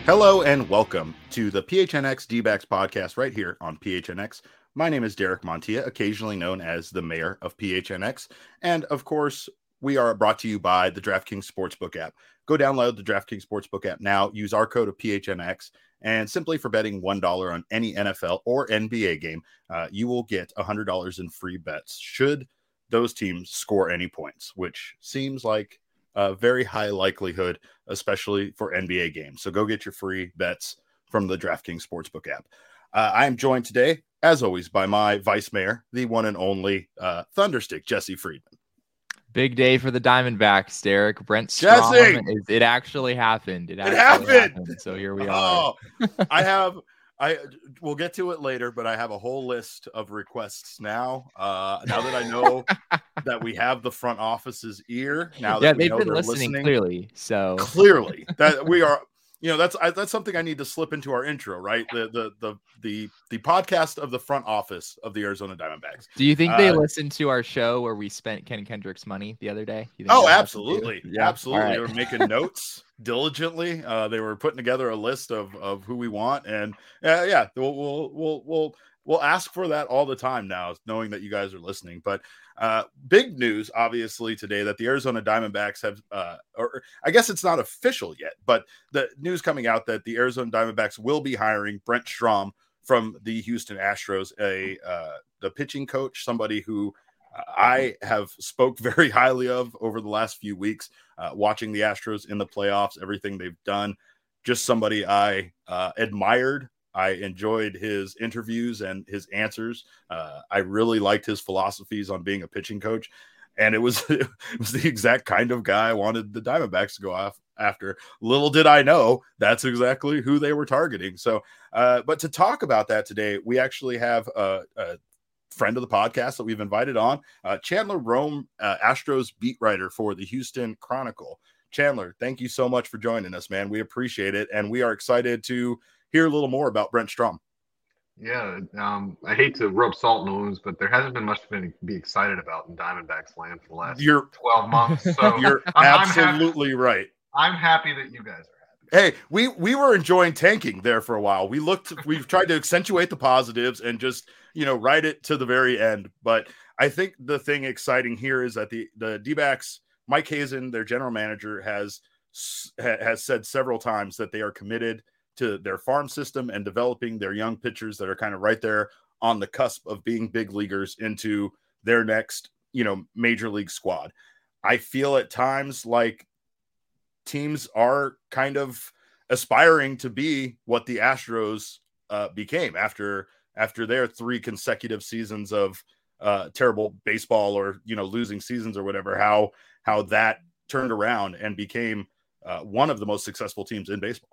Hello and welcome to the PHNX D-backs podcast right here on PHNX. My name is Derek Montilla, occasionally known as the mayor of PHNX. And of course, we are brought to you by the DraftKings Sportsbook app. Go download the DraftKings Sportsbook app now. Use our code of PHNX. And simply for betting $1 on any NFL or NBA game, you will get $100 in free bets should those teams score any points, which seems like a very high likelihood, especially for NBA games. So go get your free bets from the DraftKings Sportsbook app. I am joined today, as always, by my vice mayor, the one and only Thunderstick, Jesse Friedman. Big day for the Diamondbacks, Derek. Brent Strom. It actually happened. It happened. So here we are. We'll get to it later, but I have a whole list of requests now. Now that I know that we have the front office's ear, now that they've been listening clearly. So clearly that we are, that's something I need to slip into our intro, right? The podcast of the front office of the Arizona Diamondbacks. Do you think they listened to our show where we spent Ken Kendrick's money the other day? Oh, absolutely. Yeah. Absolutely. Right. They were making notes diligently. They were putting together a list of who we want. And we'll ask for that all the time now, knowing that you guys are listening. But big news, obviously, today that the Arizona Diamondbacks have, or I guess it's not official yet, but the news coming out that the Arizona Diamondbacks will be hiring Brent Strom from the Houston Astros, the pitching coach, somebody who I have spoke very highly of over the last few weeks, watching the Astros in the playoffs, everything they've done. Just somebody I admired. I enjoyed his interviews and his answers. I really liked his philosophies on being a pitching coach. And it was the exact kind of guy I wanted the Diamondbacks to go off after. Little did I know that's exactly who they were targeting. So, but to talk about that today, we actually have a friend of the podcast that we've invited on, Chandler Rome, Astros beat writer for the Houston Chronicle. Chandler, thank you so much for joining us, man. We appreciate it. And we are excited to hear a little more about Brent Strom. Yeah, I hate to rub salt in the wounds, but there hasn't been much to be excited about in Diamondbacks land for the last 12 months. So you're absolutely right. I'm happy that you guys are Hey, happy. we were enjoying tanking there for a while. We've tried to accentuate the positives and just, ride it to the very end. But I think the thing exciting here is that the D-backs, Mike Hazen, their general manager, has said several times that they are committed to their farm system and developing their young pitchers that are kind of right there on the cusp of being big leaguers into their next, major league squad. I feel at times like teams are kind of aspiring to be what the Astros became after their 3 consecutive seasons of terrible baseball or, losing seasons or whatever, how that turned around and became one of the most successful teams in baseball.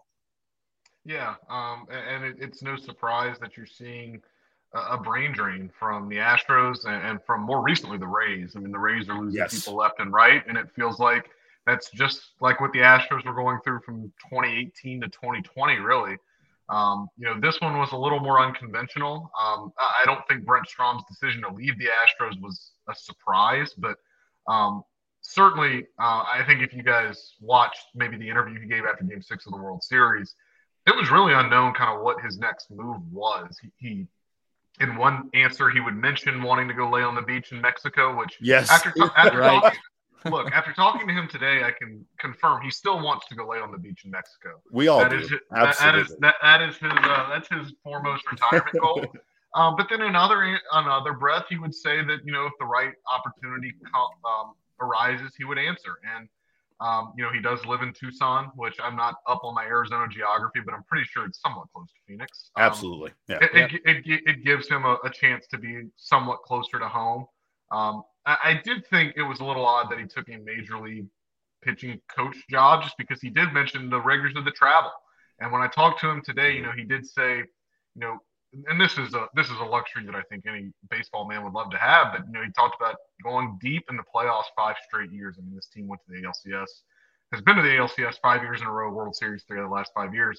Yeah, and it's no surprise that you're seeing a brain drain from the Astros and from more recently the Rays. I mean, the Rays are losing people left and right, and it feels like that's just like what the Astros were going through from 2018 to 2020, really. This one was a little more unconventional. I don't think Brent Strom's decision to leave the Astros was a surprise, but certainly I think if you guys watched maybe the interview he gave after Game 6 of the World Series, it was really unknown kind of what his next move was. He in one answer, he would mention wanting to go lay on the beach in Mexico, which after talking to him today, I can confirm he still wants to go lay on the beach in Mexico. We all do. Absolutely. That's his foremost retirement goal. But then in another breath, he would say that, if the right opportunity arises, he would answer. And he does live in Tucson, which I'm not up on my Arizona geography, but I'm pretty sure it's somewhat close to Phoenix. Absolutely. Yeah. It gives him a chance to be somewhat closer to home. I did think it was a little odd that he took a major league pitching coach job just because he did mention the rigors of the travel. And when I talked to him today, he did say, and this is a luxury that I think any baseball man would love to have. But he talked about going deep in the playoffs 5 straight years. I mean, this team went to the ALCS, has been to the ALCS 5 years in a row, World Series 3 of the last 5 years.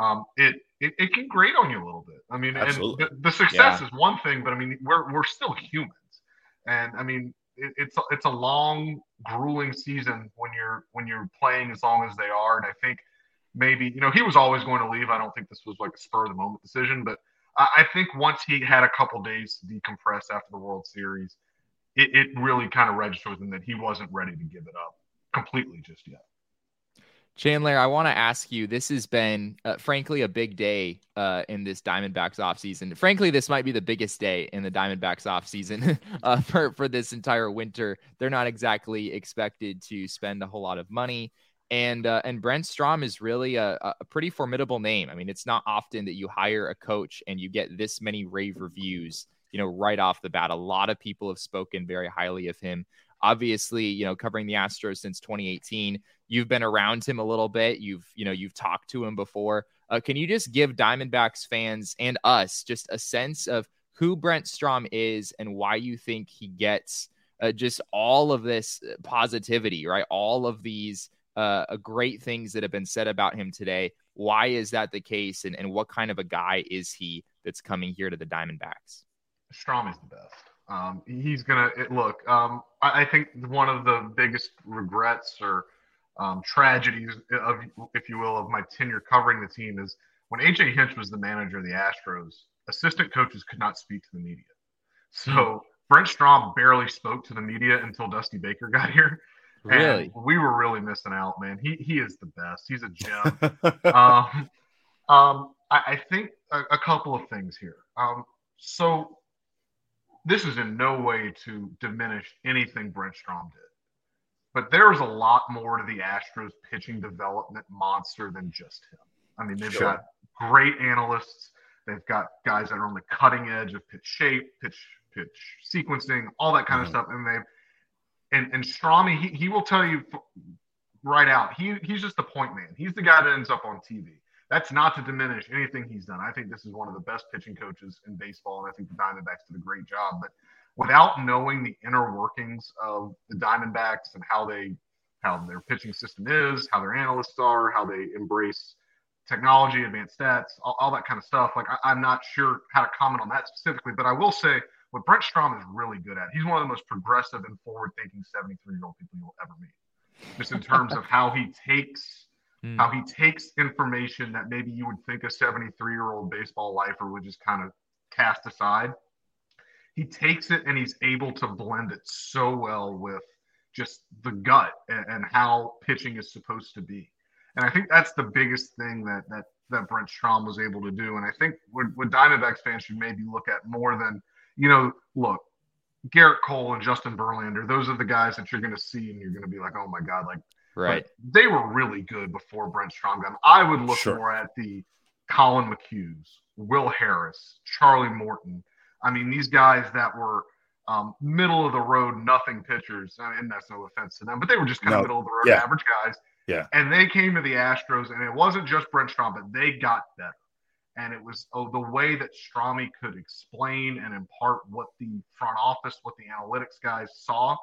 It can grate on you a little bit. I mean, absolutely. And the success is one thing, but I mean, we're still humans, and I mean, it's a long, grueling season when you're playing as long as they are, and I think maybe, he was always going to leave. I don't think this was like a spur of the moment decision, but I think once he had a couple days to decompress after the World Series, it really kind of registered with him that he wasn't ready to give it up completely just yet. Chandler, I want to ask you, this has been, frankly, a big day in this Diamondbacks offseason. Frankly, this might be the biggest day in the Diamondbacks offseason for this entire winter. They're not exactly expected to spend a whole lot of money. And Brent Strom is really a pretty formidable name. I mean, it's not often that you hire a coach and you get this many rave reviews, right off the bat. A lot of people have spoken very highly of him. Obviously, covering the Astros since 2018, you've been around him a little bit. You've talked to him before. Can you just give Diamondbacks fans and us just a sense of who Brent Strom is and why you think he gets just all of this positivity, right? All of these great things that have been said about him today. Why is that the case? And what kind of a guy is he that's coming here to the Diamondbacks? Strom is the best. He's going to look. I think one of the biggest regrets or tragedies of, if you will, of my tenure covering the team is when AJ Hinch was the manager of the Astros, assistant coaches could not speak to the media. So Brent Strom barely spoke to the media until Dusty Baker got here. Really? And we were really missing out, man. He is the best. He's a gem. I think a couple of things here. So this is in no way to diminish anything Brent Strom did. But there is a lot more to the Astros pitching development monster than just him. I mean, they've got great analysts. They've got guys that are on the cutting edge of pitch shape, pitch sequencing, all that kind of stuff. And Strom, he will tell you right out, he's just the point man. He's the guy that ends up on TV. That's not to diminish anything he's done. I think this is one of the best pitching coaches in baseball, and I think the Diamondbacks did a great job. But without knowing the inner workings of the Diamondbacks and how their pitching system is, how their analysts are, how they embrace technology, advanced stats, all that kind of stuff, like I'm not sure how to comment on that specifically. But I will say what Brent Strom is really good at, he's one of the most progressive and forward-thinking 73-year-old people you'll ever meet. Just in terms of how he takes information that maybe you would think a 73-year-old baseball lifer would just kind of cast aside. He takes it and he's able to blend it so well with just the gut and how pitching is supposed to be. And I think that's the biggest thing that Brent Strom was able to do. And I think what Diamondbacks fans should maybe look at more than, look, Garrett Cole and Justin Verlander, those are the guys that you're going to see and you're going to be like, oh my God, like, right. They were really good before Brent Strom got them. I would look more at the Colin McHughs, Will Harris, Charlie Morton. I mean, these guys that were middle of the road, nothing pitchers. I mean, that's no offense to them, but they were just kind of middle of the road, average guys. Yeah. And they came to the Astros, and it wasn't just Brent Strom, but they got better. And it was the way that Stromy could explain and impart what the front office, what the analytics guys saw,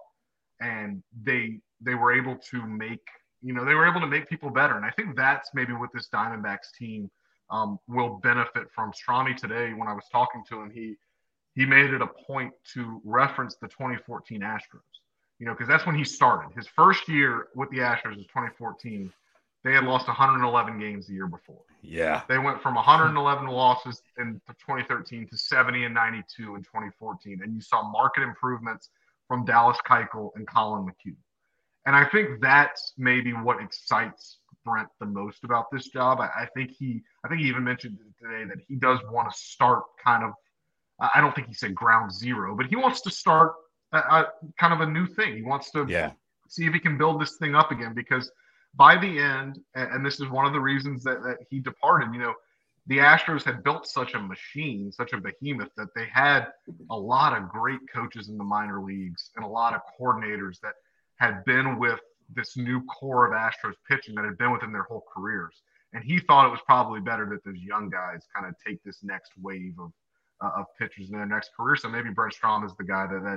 and they were able to make people better. And I think that's maybe what this Diamondbacks team will benefit from. Stromy today, when I was talking to him, he made it a point to reference the 2014 Astros, because that's when he started. His first year with the Astros was 2014. They had lost 111 games the year before. Yeah. They went from 111 losses in 2013 to 70 and 92 in 2014. And you saw market improvements from Dallas Keuchel and Colin McHugh. And I think that's maybe what excites Brent the most about this job. I think he even mentioned today that he does want to start kind of, I don't think he said ground zero, but he wants to start kind of a new thing. He wants to see if he can build this thing up again, because by the end, and this is one of the reasons that he departed, the Astros had built such a machine, such a behemoth, that they had a lot of great coaches in the minor leagues and a lot of coordinators that had been with this new core of Astros pitching that had been with them their whole careers. And he thought it was probably better that those young guys kind of take this next wave of pitchers in their next career. So maybe Brent Strom is the guy that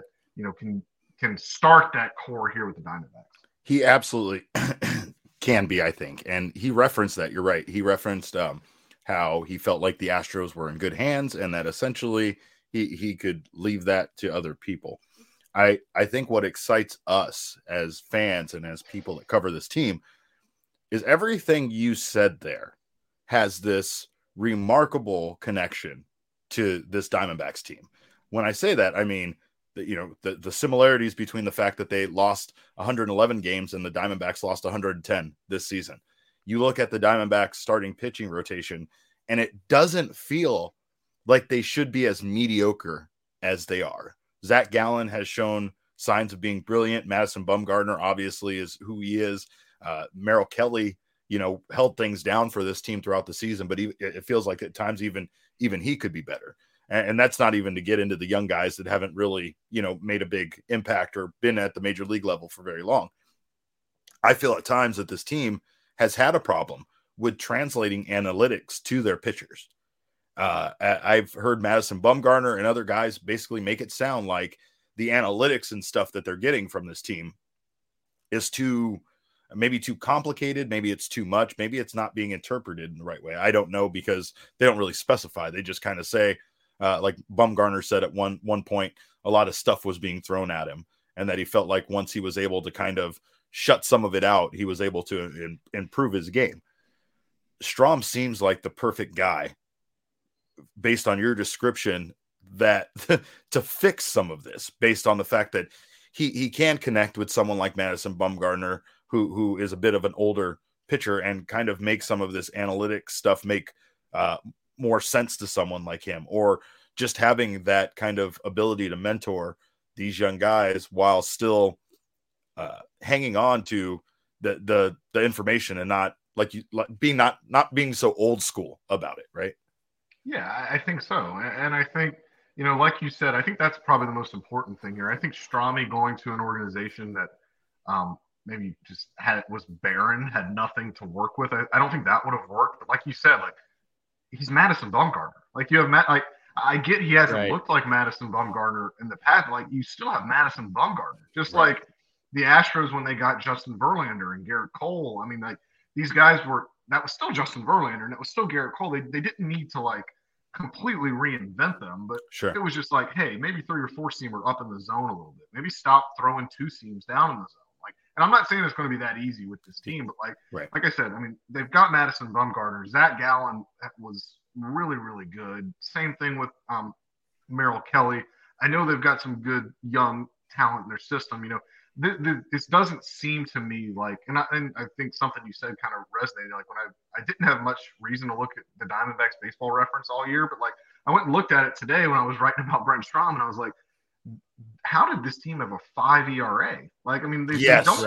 can start that core here with the Diamondbacks. He absolutely can be, I think. And he referenced that. You're right. He referenced how he felt like the Astros were in good hands and that essentially he could leave that to other people. I think what excites us as fans and as people that cover this team is everything you said there has this remarkable connection to this Diamondbacks team. When I say that, I mean, the similarities between the fact that they lost 111 games and the Diamondbacks lost 110 this season. You look at the Diamondbacks starting pitching rotation, and it doesn't feel like they should be as mediocre as they are. Zach Gallen has shown signs of being brilliant. Madison Bumgarner obviously is who he is. Merrill Kelly, held things down for this team throughout the season, but it feels like at times even he could be better. And that's not even to get into the young guys that haven't really, made a big impact or been at the major league level for very long. I feel at times that this team has had a problem with translating analytics to their pitchers. I've heard Madison Bumgarner and other guys basically make it sound like the analytics and stuff that they're getting from this team is maybe too complicated. Maybe it's too much. Maybe it's not being interpreted in the right way. I don't know, because they don't really specify. They just kind of say, like Bumgarner said at one point, a lot of stuff was being thrown at him, and that he felt like once he was able to kind of shut some of it out, he was able to improve his game. Strahm seems like the perfect guy, based on your description, that to fix some of this, based on the fact that he can connect with someone like Madison Bumgarner, who is a bit of an older pitcher, and kind of make some of this analytic stuff make more sense to someone like him, or just having that kind of ability to mentor these young guys while still hanging on to the information and not being so old school about it, right? Yeah, I think so. And I think, like you said, I think that's probably the most important thing here. I think Strami going to an organization that maybe just was barren, had nothing to work with, I don't think that would have worked. But like you said, like, he's Madison Bumgarner. Like, you have I get he hasn't looked like Madison Bumgarner in the past, but like, you still have Madison Bumgarner. Just like the Astros when they got Justin Verlander and Garrett Cole. I mean, like, these guys that was still Justin Verlander and it was still Garrett Cole. They didn't need to like completely reinvent them, but it was just like, hey, maybe throw your four seamer up in the zone a little bit. Maybe stop throwing two seams down in the zone. Like, and I'm not saying it's going to be that easy with this team, but like I said, I mean, they've got Madison Bumgarner. Zach Gallen was really, really good. Same thing with Merrill Kelly. I know they've got some good young talent in their system. This doesn't seem to me like, and I think something you said kind of resonated. Like, when I didn't have much reason to look at the Diamondbacks baseball reference all year, but like, I went and looked at it today when I was writing about Brent Strahm, and I was like, how did this team have a 5 ERA? Like, I mean, they don't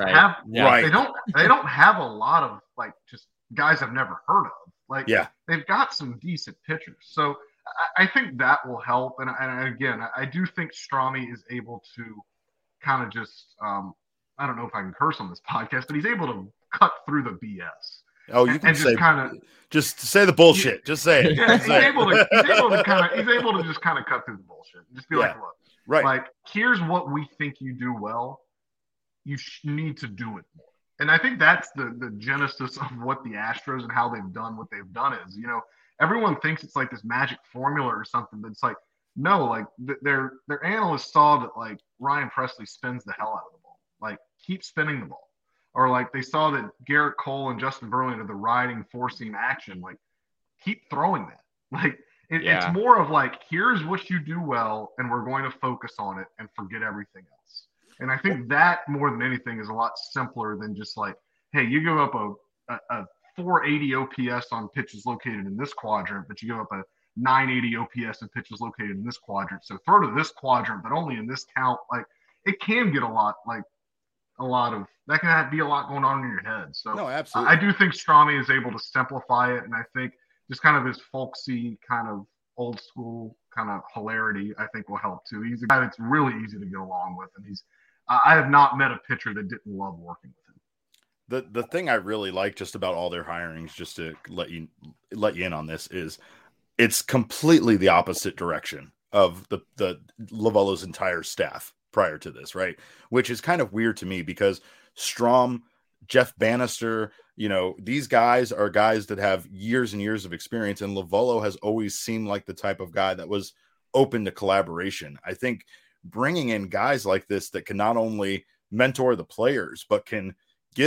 have a lot of like just guys I've never heard of. Like, they've got some decent pitchers. So I think that will help. And again, I do think Strami is able to kind of just, I don't know if I can curse on this podcast, but he's able to cut through the BS. Oh, you can say just say the bullshit. Just say it. Yeah, he's able to just kind of cut through the bullshit. Just be like, look, like, here's what we think you do well. You need to do it more. And I think that's the genesis of what the Astros and how they've done what they've done is, everyone thinks it's like this magic formula or something, but it's like, no, like their analysts saw that like Ryan Presley spins the hell out of the ball. Like, keep spinning the ball. Or like they saw that Garrett Cole and Justin Verlander, the riding four-seam action, like, keep throwing that. Like, it's more of like, here's what you do well, and we're going to focus on it and forget everything else. And I think that more than anything is a lot simpler than just like, hey, you give up a 480 OPS on pitches located in this quadrant, but you give up a 980 OPS and pitches located in this quadrant. So throw to this quadrant, but only in this count. Like, it can get a lot of that can be a lot going on in your head. So no, absolutely. I do think Strami is able to simplify it. And I think just kind of his folksy kind of old school kind of hilarity, I think will help too. He's a guy that's really easy to get along with. And I have not met a pitcher that didn't love working with him. The thing I really like just about all their hirings, just to let you in on this, is it's completely the opposite direction of the Lovullo's entire staff prior to this, right? Which is kind of weird to me, because Strahm, Jeff Bannister, these guys are guys that have years and years of experience, and Lovullo has always seemed like the type of guy that was open to collaboration. I think bringing in guys like this that can not only mentor the players, but can give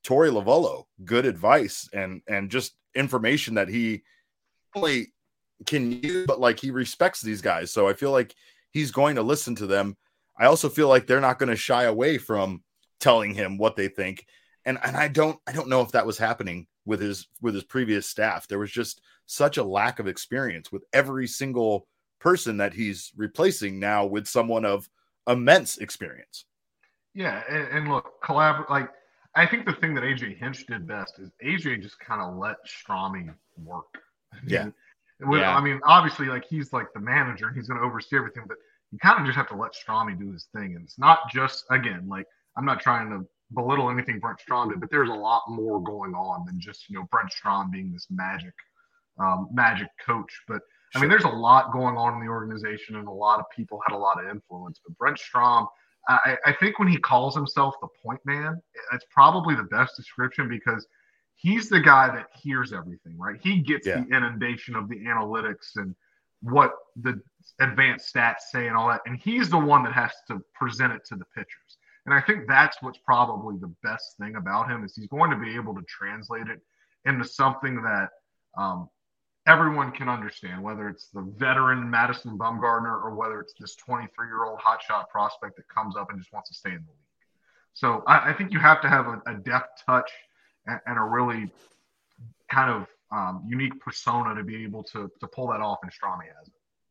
Torey Lovullo good advice and just information that he only can use, but like he respects these guys. So I feel like he's going to listen to them. I also feel like they're not going to shy away from telling him what they think. And I don't know if that was happening with his previous staff. There was just such a lack of experience with every single person that he's replacing now with someone of immense experience. Yeah, and look, like I think the thing that AJ Hinch did best is AJ just kind of let Strami work. Yeah. I mean, obviously, like he's like the manager, he's going to oversee everything, but you kind of just have to let Strami do his thing. And it's not just, again, like I'm not trying to belittle anything Brent Strom did, but there's a lot more going on than just, Brent Strom being this magic coach. But I mean, there's a lot going on in the organization, and a lot of people had a lot of influence. But Brent Strom, I think when he calls himself the point man, it's probably the best description because he's the guy that hears everything, right? He gets the inundation of the analytics and what the advanced stats say and all that. And he's the one that has to present it to the pitchers. And I think that's what's probably the best thing about him is he's going to be able to translate it into something that everyone can understand, whether it's the veteran Madison Bumgarner or whether it's this 23-year-old hotshot prospect that comes up and just wants to stay in the league. So I think you have to have a deft touch and a really kind of unique persona to be able to pull that off, and Strami has it.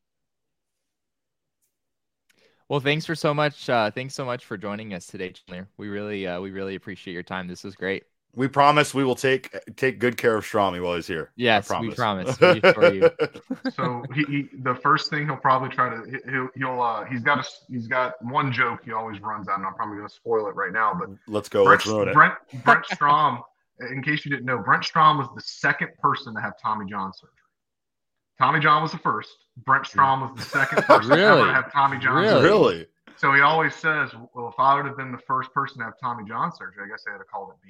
Well, thanks so much for joining us today, Chandler. We really appreciate your time. This was great. We promise we will take good care of Strami while he's here. Yes, we promise. We assure you. So he the first thing he'll probably try to he's got one joke he always runs out, and I'm probably going to spoil it right now. But let's go. Let's ruin it. Brent Strom. In case you didn't know, Brent Strom was the second person to have Tommy John surgery. Tommy John was the first. Brent Strom was the second person ever to have Tommy John surgery. Really? So he always says, well, if I would have been the first person to have Tommy John surgery, I guess they would have called it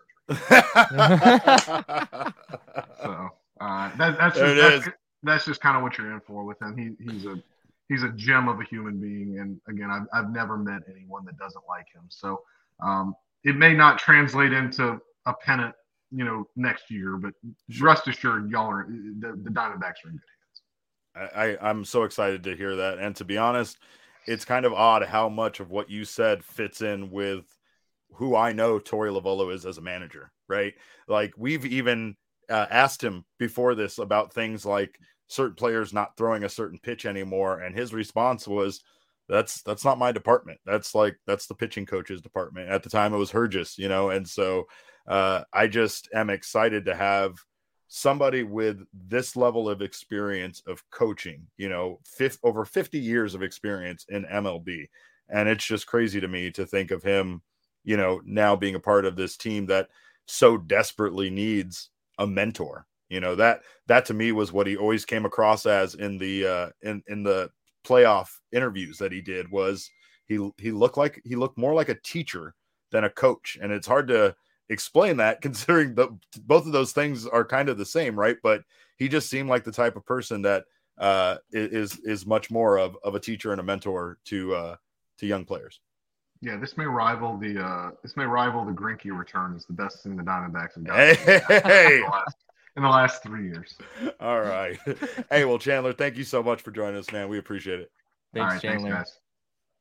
BS surgery. So that's just kind of what you're in for with him. He's a gem of a human being. And again, I've never met anyone that doesn't like him. So it may not translate into a pennant, next year, but rest assured, y'all are the Diamondbacks are in good hands. I'm so excited to hear that. And to be honest, it's kind of odd how much of what you said fits in with who I know Torey Lovullo is as a manager, right? Like we've even asked him before this about things like certain players not throwing a certain pitch anymore. And his response was, that's not my department. That's the pitching coach's department. At the time it was Hergis, and so I just am excited to have somebody with this level of experience of coaching, over 50 years of experience in MLB. And it's just crazy to me to think of him, now being a part of this team that so desperately needs a mentor. That to me was what he always came across as in the playoff interviews that he did. Was he looked more like a teacher than a coach. And it's hard to explain that considering both of those things are kind of the same, right? But he just seemed like the type of person that is much more of a teacher and a mentor to young players. Yeah, this may rival the Greinke return as the best thing the Diamondbacks have done in the last 3 years. All right. Hey, well, Chandler, thank you so much for joining us, man. We appreciate it. Thanks, Chandler. Thanks, guys.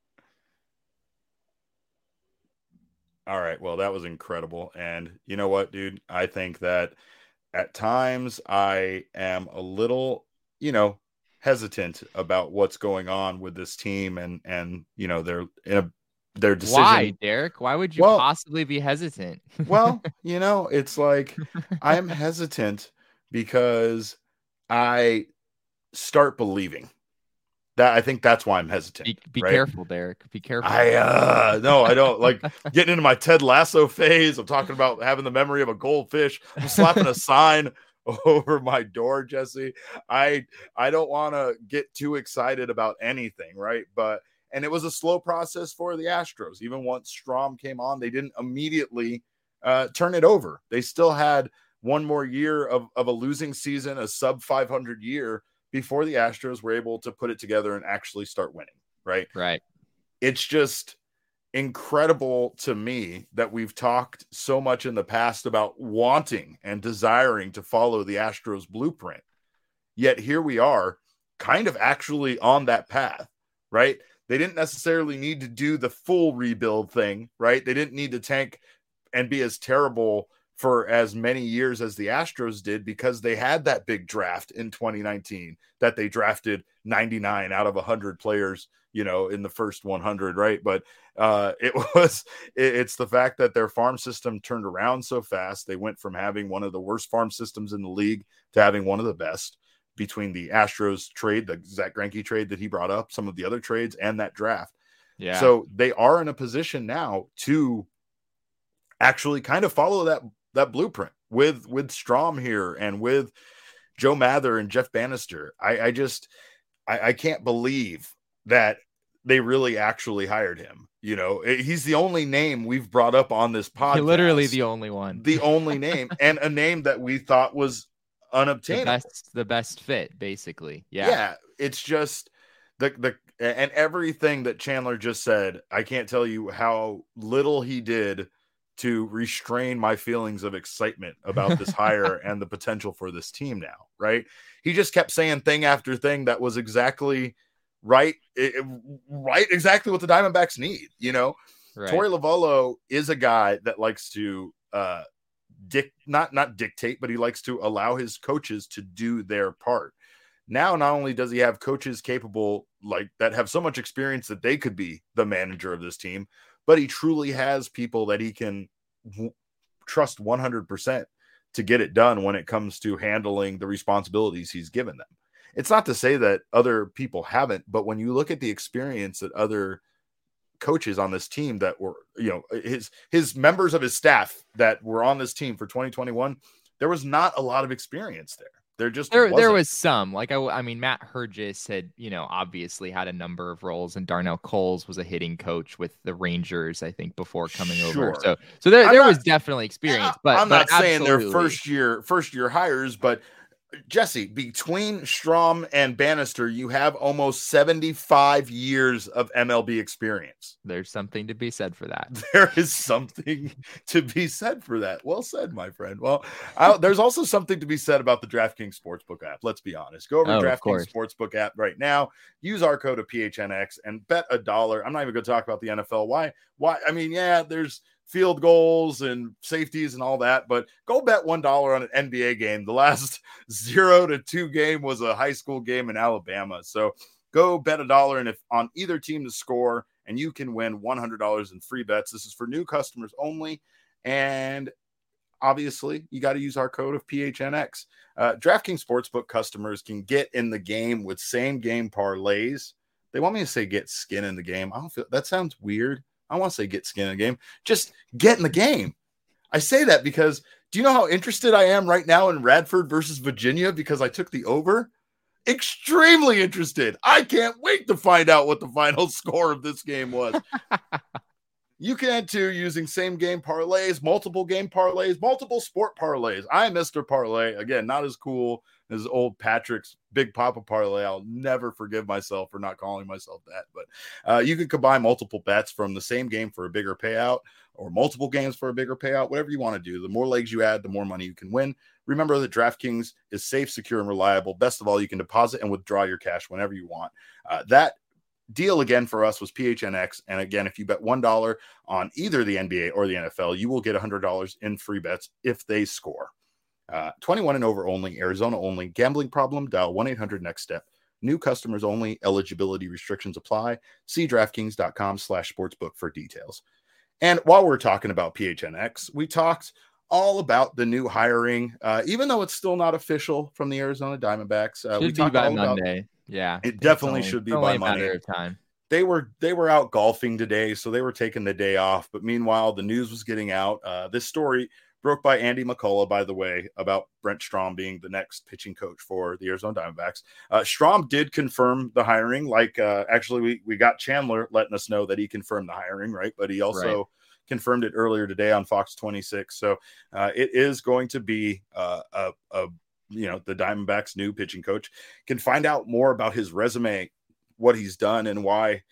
All right. Well, that was incredible. And you know what, dude? I think that at times I am a little, hesitant about what's going on with this team and their decision. Why, Derek? Why would you possibly be hesitant? Well, it's like I'm hesitant because I start believing. I think that's why I'm hesitant. Be right? careful, Derek. Be careful. No, I don't like getting into my Ted Lasso phase. I'm talking about having the memory of a goldfish. I'm slapping a sign over my door, Jesse. I don't want to get too excited about anything, right? And it was a slow process for the Astros. Even once Strom came on, they didn't immediately turn it over. They still had one more year of a losing season, a sub 500 year, before the Astros were able to put it together and actually start winning, right? Right. It's just, incredible to me that we've talked so much in the past about wanting and desiring to follow the Astros blueprint. Yet here we are, kind of actually on that path, right? They didn't necessarily need to do the full rebuild thing, right? They didn't need to tank and be as terrible for as many years as the Astros did, because they had that big draft in 2019 that they drafted 99 out of 100 players, in the first 100, right? But it's the fact that their farm system turned around so fast. They went from having one of the worst farm systems in the league to having one of the best, between the Astros trade, the Zach Greinke trade that he brought up, some of the other trades, and that draft. Yeah. So they are in a position now to actually kind of follow that blueprint with Strom here and with Joe Mather and Jeff Bannister. I can't believe that they really actually hired him. He's the only name we've brought up on this podcast. Literally the only one. The only name, and a name that we thought was unobtainable. The best fit, basically. Yeah. It's just the and everything that Chandler just said, I can't tell you how little he did to restrain my feelings of excitement about this hire and the potential for this team now, right? He just kept saying thing after thing that was exactly right, exactly what the Diamondbacks need, Right. Torey Lovullo is a guy that likes to not dictate, but he likes to allow his coaches to do their part. Now, not only does he have coaches capable that have so much experience that they could be the manager of this team, but he truly has people that he can trust 100% to get it done when it comes to handling the responsibilities he's given them. It's not to say that other people haven't, but when you look at the experience that other coaches on this team that were, his members of his staff that were on this team for 2021, there was not a lot of experience there. There was some, Matt Hergis had, obviously had a number of roles, and Darnell Coles was a hitting coach with the Rangers, I think, before coming over. So there was definitely experience, but I'm not saying they're first year hires, but Jesse, between Strom and Bannister, you have almost 75 years of MLB experience. There's something to be said for that. There is something to be said for that. Well said, my friend. Well, there's also something to be said about the DraftKings Sportsbook app. Let's be honest. Go over to DraftKings Sportsbook app right now. Use our code of PHNX and bet $1. I'm not even going to talk about the NFL. Why? I mean, yeah, there's field goals and safeties and all that, but go bet $1 on an NBA game. The last 0-2 game was a high school game in Alabama. So go bet $1 and if on either team to score, and you can win $100 in free bets. This is for new customers only. And obviously you got to use our code of PHNX. DraftKings Sportsbook customers can get in the game with same game parlays. They want me to say get skin in the game. I don't feel that sounds weird. I want to say get skin in the game. Just get in the game. I say that because do you know how interested I am right now in Radford versus Virginia because I took the over? Extremely interested. I can't wait to find out what the final score of this game was. You can too, using same game parlays, multiple game parlays, multiple sport parlays. I'm Mr. Parlay. Again, not as cool as old Patrick's Big Papa Parlay. I'll never forgive myself for not calling myself that. But you can combine multiple bets from the same game for a bigger payout or multiple games for a bigger payout, whatever you want to do. The more legs you add, the more money you can win. Remember that DraftKings is safe, secure, and reliable. Best of all, you can deposit and withdraw your cash whenever you want. That deal again for us was PHNX. And again, if you bet $1 on either the NBA or the NFL, you will get $100 in free bets if they score. 21 and over only, Arizona only. Gambling problem? Dial 1-800-NEXT-STEP. New customers only. Eligibility restrictions apply. See DraftKings.com/sportsbook for details. And while we're talking about PHNX, we talked all about the new hiring, even though it's still not official from the Arizona Diamondbacks. We talked by Monday. Yeah, it definitely should be by Monday. Matter of time. They were out golfing today, so they were taking the day off. But meanwhile, the news was getting out. This story broke by Andy McCullough, by the way, about Brent Strom being the next pitching coach for the Arizona Diamondbacks. Strom did confirm the hiring. Actually, we got Chandler letting us know that he confirmed the hiring, right? But he also confirmed it earlier today on Fox 26. So it is going to be the Diamondbacks' new pitching coach. Can find out more about his resume, what he's done, and why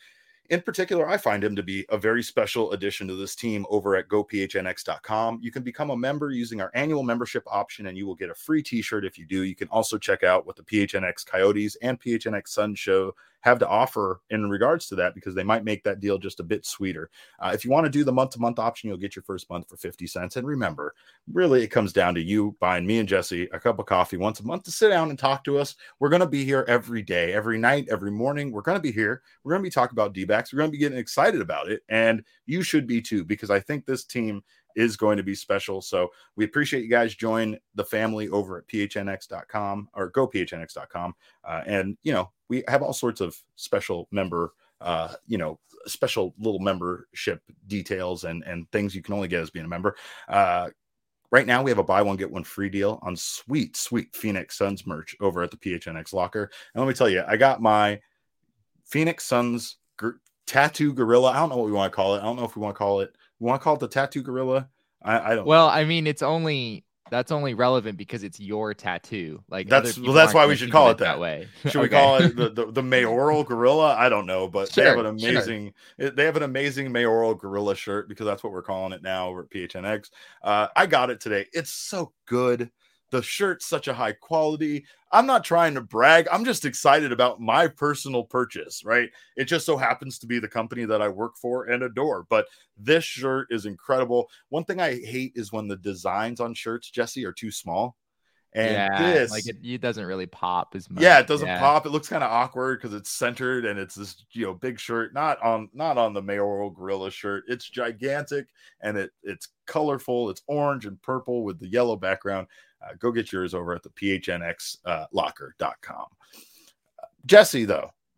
In particular, I find him to be a very special addition to this team over at gophnx.com. You can become a member using our annual membership option, and you will get a free t-shirt if you do. You can also check out what the PHNX Coyotes and PHNX Sun Show have to offer in regards to that, because they might make that deal just a bit sweeter. If you want to do the month-to-month option, you'll get your first month for 50 cents. And remember, really, it comes down to you buying me and Jesse a cup of coffee once a month to sit down and talk to us. We're going to be here every day, every night, every morning. We're going to be here. We're going to be talking about D-backs. We're going to be getting excited about it. And you should be too, because I think this team is going to be special. So we appreciate you guys join the family over at phnx.com or gophnx.com. And, we have all sorts of special member, special little membership details and things you can only get as being a member. Right now we have a buy one, get one free deal on sweet Phoenix Suns merch over at the PHNX locker. And let me tell you, I got my Phoenix Suns tattoo gorilla. I don't know what we want to call it. I don't know if we want to call it the tattoo gorilla. I don't Well, know. I mean, that's only relevant because it's your tattoo. Like that's why we should call it that way. Should we call it the mayoral gorilla? I don't know, but they have an amazing mayoral gorilla shirt, because that's what we're calling it now over at PHNX. I got it today. It's so good. The shirt's such a high quality. I'm not trying to brag. I'm just excited about my personal purchase, right? It just so happens to be the company that I work for and adore. But this shirt is incredible. One thing I hate is when the designs on shirts, Jesse, are too small. And it doesn't really pop as much. Yeah, it doesn't pop. It looks kind of awkward because it's centered and it's this big shirt, not on the mayoral gorilla shirt. It's gigantic and it's colorful. It's orange and purple with the yellow background. Go get yours over at the phnxlocker.com. Jesse,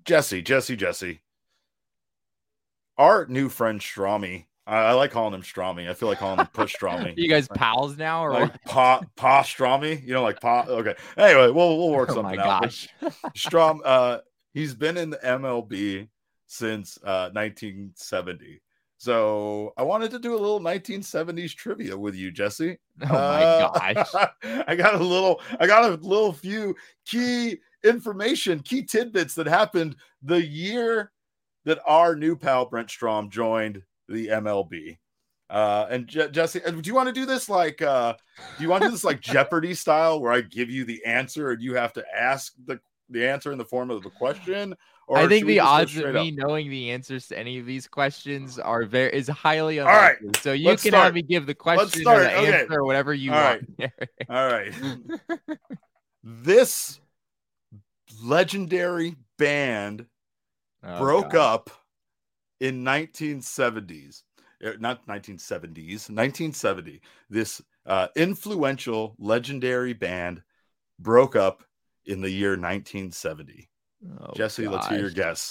our new friend Strami. I like calling him Strami. I feel like calling him Push Strami. You guys pals now, or like Pa Strami? Like Pa. Okay. Anyway, we'll work something out. Gosh. Strom, he's been in the MLB since 1970. So I wanted to do a little 1970s trivia with you, Jesse. Oh my gosh. I got a little few key information, key tidbits that happened the year that our new pal Brent Strom joined the MLB. And Jesse, do you want to do this like Jeopardy style, where I give you the answer and you have to ask the answer in the form of the question? Or I think the odds of me knowing the answers to any of these questions is highly unlikely. All right, so you can have me give the question or the answer or whatever you want. All right. This legendary band broke up in 1970s. Not 1970s, 1970. This influential legendary band broke up in the year 1970. Jesse, let's hear your guess.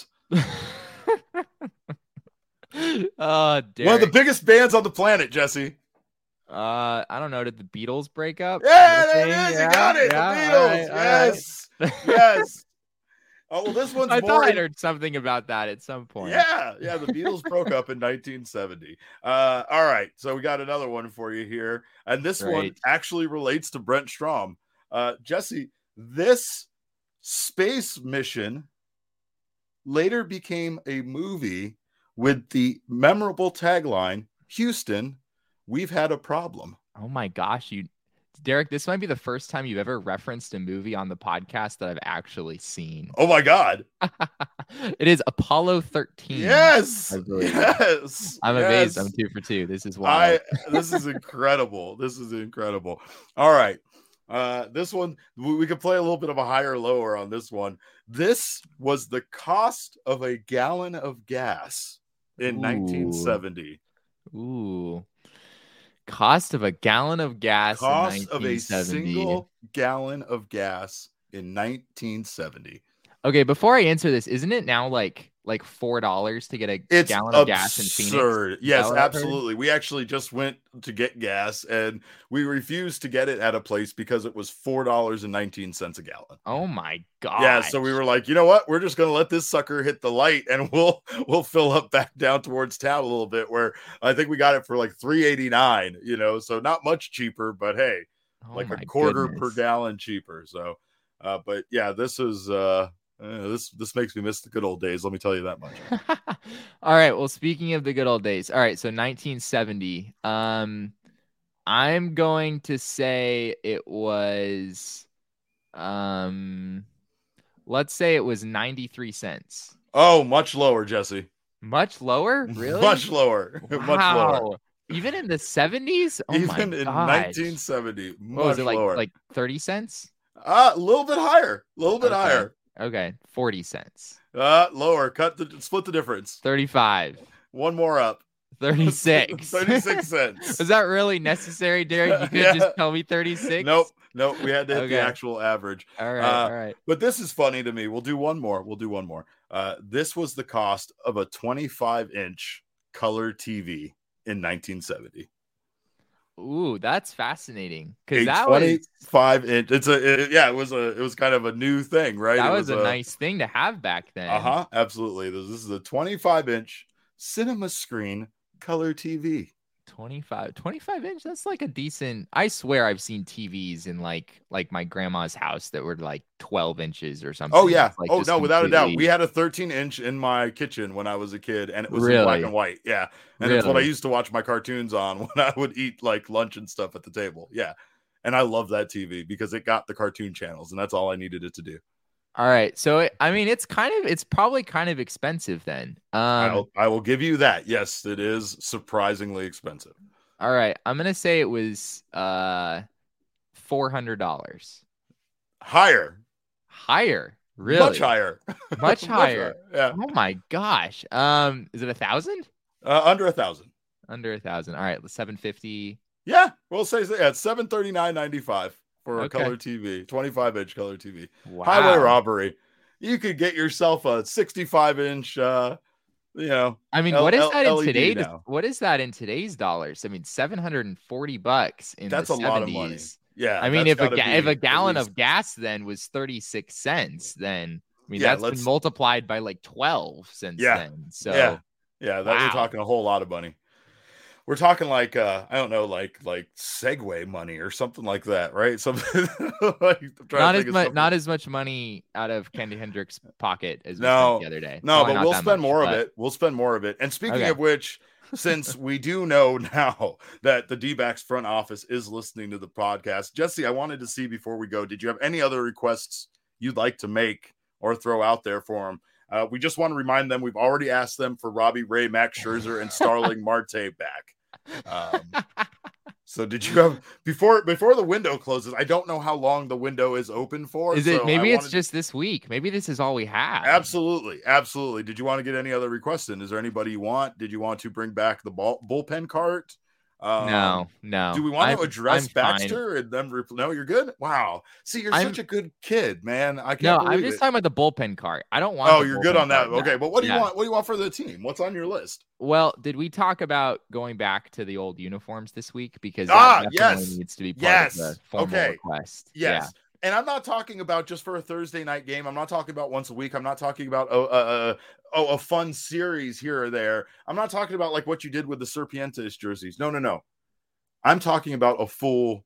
One of the biggest bands on the planet, Jesse. I don't know. Did the Beatles break up? Yeah, there it is. You got it. Yeah, the Beatles. Yes. Yes. Oh, well, this one's I thought I heard something about that at some point. Yeah, the Beatles broke up in 1970. All right, so we got another one for you here, and this one actually relates to Brent Strom. Jesse, this space mission later became a movie with the memorable tagline, "Houston, we've had a problem." Oh my gosh, Derek, this might be the first time you've ever referenced a movie on the podcast that I've actually seen. Oh my God. It is Apollo 13. Yes. I'm amazed. I'm 2 for 2. This is wild. This is incredible. All right. This one, we could play a little bit of a higher lower on this one. This was the cost of a gallon of gas in 1970. Ooh. Cost of a gallon of gas in 1970. Cost of a single gallon of gas in 1970. Okay, before I answer this, isn't it now like $4 to get a gallon of gas in Phoenix? Yes, absolutely. We actually just went to get gas and we refused to get it at a place because it was $4.19 a gallon. Oh my god. Yeah, so we were like, you know what? We're just gonna let this sucker hit the light and we'll fill up back down towards town a little bit, where I think we got it for like $3.89, so not much cheaper, but hey, like a quarter per gallon cheaper. So but yeah, this is This makes me miss the good old days. Let me tell you that much. All right. Well, speaking of the good old days. All right. So 1970. I'm going to say it was, let's say it was 93 cents. Oh, much lower, Jesse. Much lower? Really? Much lower. Wow. Much lower. Even in the 70s? Oh Even my in gosh. 1970. What was it, lower. like 30 cents? A little bit higher. A little bit higher. Okay. 40 cents. Lower. Split the difference. 35. One more up. 36. 36 cents. Was that really necessary, Derek? You could just tell me 36? Nope. We had to hit the actual average. All right. But this is funny to me. We'll do one more. This was the cost of a 25-inch color TV in 1970. Ooh, that's fascinating. Because that 25-inch. It was kind of a new thing, right? That was a nice thing to have back then. Absolutely. This is a 25-inch cinema screen color TV. 25 inch. That's like a decent. I swear I've seen TVs in like my grandma's house that were like 12 inches or something. Oh yeah. No, without a doubt. We had a 13-inch in my kitchen when I was a kid, and it was in black and white. Yeah, and it's what I used to watch my cartoons on when I would eat like lunch and stuff at the table. Yeah, and I love that TV because it got the cartoon channels, and that's all I needed it to do. All right. So, it's probably kind of expensive then. I will give you that. Yes, it is surprisingly expensive. All right. I'm going to say it was $400. Higher. Really? Much higher. Much higher. Yeah. Oh my gosh. Is it 1,000? Under 1,000. Under 1,000. All right. 750. Yeah. We'll say it's $739.95. For a color TV, 25-inch color TV. Wow. Highway robbery. You could get yourself a 65-inch, I mean, what is that in today's? Now. What is that in today's dollars? I mean, $740 in that's the 70s. A lot of money. Yeah. I mean, if a gallon of gas then was 36 cents, then that's been multiplied by like 12 since then. So we're talking a whole lot of money. We're talking like I don't know, like Segway money or something like that, right? Something like not as much money out of Kenny Hendricks' pocket as we spent the other day. No, but we'll spend more of it. We'll spend more of it. And speaking of which, since we do know now that the D-backs front office is listening to the podcast, Jesse, I wanted to see before we go, did you have any other requests you'd like to make or throw out there for them? We just want to remind them we've already asked them for Robbie Ray, Max Scherzer, and Starling Marte back. So did you have before the window closes? I don't know how long the window is open for. Is it maybe it's just this week? Maybe this is all we have. Absolutely. Did you want to get any other requests in? Is there anybody you want? Did you want to bring back the bullpen cart? No. Do we want to address Baxter and then? No, you're good. Wow. See, you're such a good kid, man. I can't. No, I'm just talking about the bullpen cart. I don't want. Oh, you're good on that. Okay, but what do you want? What do you want for the team? What's on your list? Well, did we talk about going back to the old uniforms this week? Because that definitely needs to be part of the formal request. Yes. Yeah. And I'm not talking about just for a Thursday night game. I'm not talking about once a week. I'm not talking about a fun series here or there. I'm not talking about like what you did with the Serpientes jerseys. No. I'm talking about a full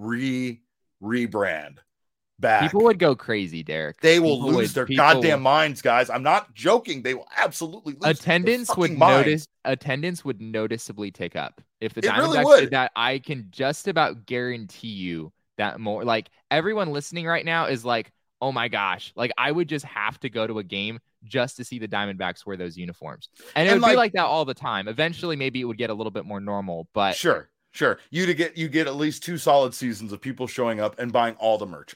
rebrand back. People would go crazy, Derek. They will lose their goddamn minds, guys. I'm not joking. They will absolutely lose attendance would minds. Attendance would noticeably tick up. If the Diamondbacks did that, I can just about guarantee you that more like everyone listening right now is like, oh my gosh, like I would just have to go to a game just to see the Diamondbacks wear those uniforms. And it would be like that all the time. Eventually, maybe it would get a little bit more normal, but sure. You get at least 2 solid seasons of people showing up and buying all the merch.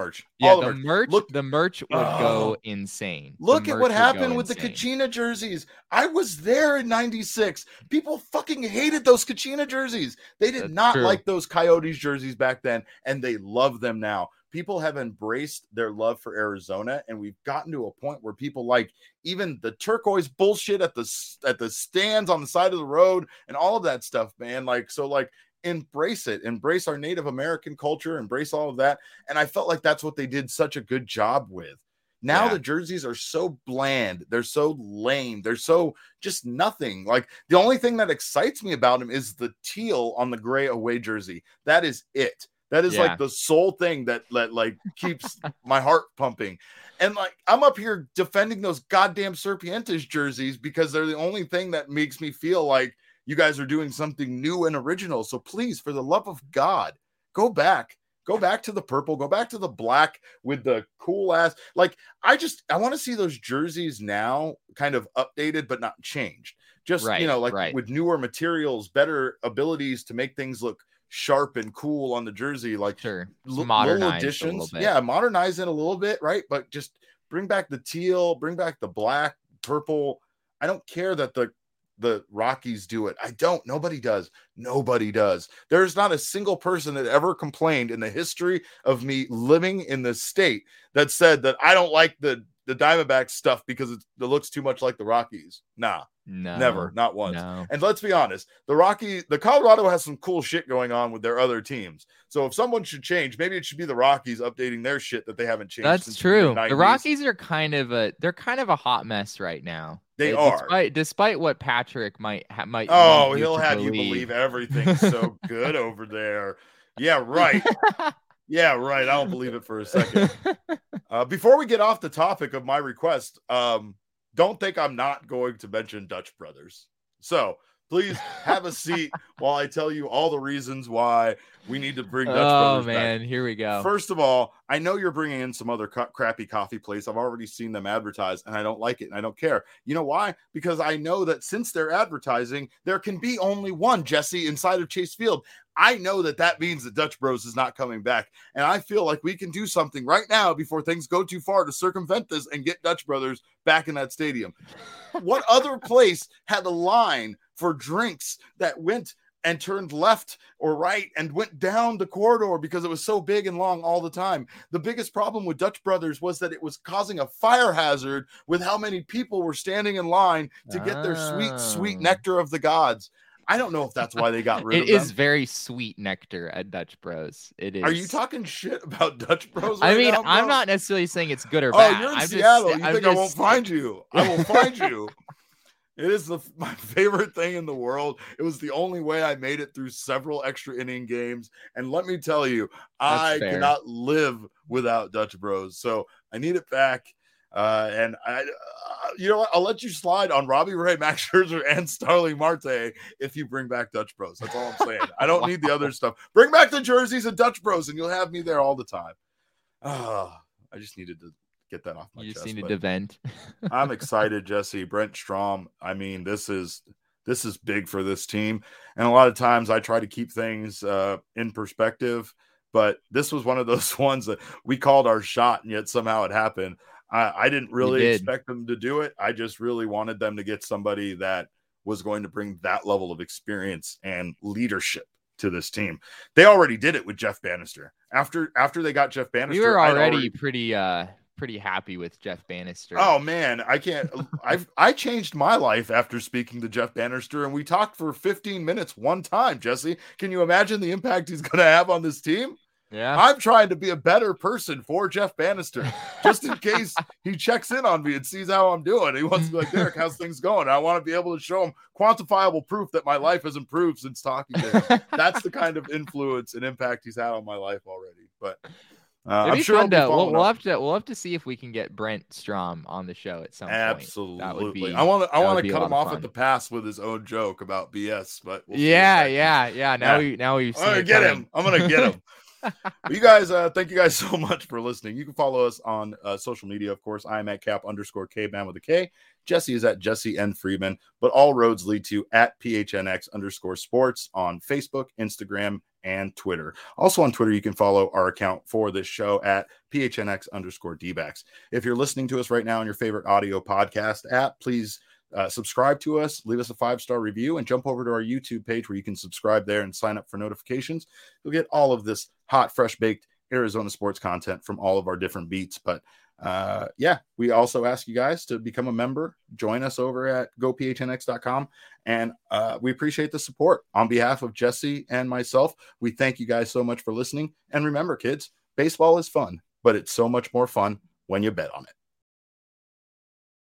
The merch would go insane. Look at what happened with the Kachina jerseys. I was there in 96. People fucking hated those Kachina jerseys. They did not like those Coyotes jerseys back then, and they love them now. People have embraced their love for Arizona, and we've gotten to a point where people like even the turquoise bullshit at the stands on the side of the road and all of that stuff, man. Embrace it, embrace our Native American culture, embrace all of that. And I felt like that's what they did such a good job with. Now the jerseys are so bland. They're so lame. They're so just nothing. Like the only thing that excites me about them is the teal on the gray away jersey. That is it. That is like the sole thing that like keeps my heart pumping. And like, I'm up here defending those goddamn Serpientes jerseys because they're the only thing that makes me feel like you guys are doing something new and original. So please, for the love of God, go back to the purple, go back to the black with the cool ass. Like, I want to see those jerseys now kind of updated, but not changed. Just, with newer materials, better abilities to make things look sharp and cool on the jersey, like little additions. Modernize it a little bit, right? But just bring back the teal, bring back the black, purple. I don't care that the Rockies do it. Nobody does. There's not a single person that ever complained in the history of me living in this state that said that I don't like the Diamondbacks stuff because it looks too much like the Rockies. Nah. No, never, not once. No. And let's be honest, the Colorado has some cool shit going on with their other teams. So if someone should change, maybe it should be the Rockies updating their shit that they haven't changed. That's true. The Rockies are kind of a hot mess right now. They are, despite what Patrick might. Oh, he'll have you believe everything's so good over there. Yeah, right. Yeah, right. I don't believe it for a second. Before we get off the topic of my request, don't think I'm not going to mention Dutch Brothers. So please have a seat while I tell you all the reasons why we need to bring Dutch Brothers back. Oh, man, here we go. First of all, I know you're bringing in some other crappy coffee place. I've already seen them advertise, and I don't like it, and I don't care. You know why? Because I know that since they're advertising, there can be only one, Jesse, inside of Chase Field. I know that means that Dutch Bros is not coming back, and I feel like we can do something right now before things go too far to circumvent this and get Dutch Brothers back in that stadium. What other place had a line for drinks that went and turned left or right and went down the corridor because it was so big and long all the time? The biggest problem with Dutch Brothers was that it was causing a fire hazard with how many people were standing in line to get their sweet nectar of the gods. I don't know if that's why they got rid of them. It is very sweet nectar at Dutch Bros. It is. Are you talking shit about Dutch Bros? I mean, I'm not necessarily saying it's good or bad. Oh, you're in Seattle. You think I won't find you? I will find you. It is my favorite thing in the world. It was the only way I made it through several extra inning games. And let me tell you, I cannot live without Dutch Bros. So I need it back. And I'll let you slide on Robbie Ray, Max Scherzer, and Starling Marte if you bring back Dutch Bros. That's all I'm saying. I don't need the other stuff. Bring back the jerseys and Dutch Bros, and you'll have me there all the time. I just needed to get that off my chest. You just needed to vent. I'm excited, Jesse. Brent Strom. I mean, this is big for this team, and a lot of times I try to keep things in perspective, but this was one of those ones that we called our shot, and yet somehow it happened. I didn't really expect them to do it. I just really wanted them to get somebody that was going to bring that level of experience and leadership to this team. They already did it with Jeff Bannister. After they got Jeff Bannister, we were already pretty happy with Jeff Bannister. Oh man, I can't. I changed my life after speaking to Jeff Bannister, and we talked for 15 minutes one time. Jesse, can you imagine the impact he's going to have on this team? Yeah, I'm trying to be a better person for Jeff Bannister, just in case he checks in on me and sees how I'm doing. He wants to be like, Derek, how's things going? I want to be able to show him quantifiable proof that my life has improved since talking to him. That's the kind of influence and impact he's had on my life already. But I'm sure we'll have to see if we can get Brent Strom on the show at some point. Absolutely. I want to cut him off at the pass with his own joke about BS. But we'll Now we've seen I'm gonna get him. You guys, thank you guys so much for listening. You can follow us on social media, of course. I'm at @cap_Kman with a K. Jesse is at Jesse N. Friedman, but all roads lead to at @PHNX_sports on Facebook, Instagram, and Twitter. Also on Twitter, you can follow our account for this show at PHNX_DBacks. If you're listening to us right now on your favorite audio podcast app, please subscribe to us, leave us a 5-star review, and jump over to our YouTube page where you can subscribe there and sign up for notifications. You'll get all of this hot, fresh baked Arizona sports content from all of our different beats. But we also ask you guys to become a member, join us over at gophnx.com. And we appreciate the support. On behalf of Jesse and myself, we thank you guys so much for listening. And remember, kids, baseball is fun, but it's so much more fun when you bet on it.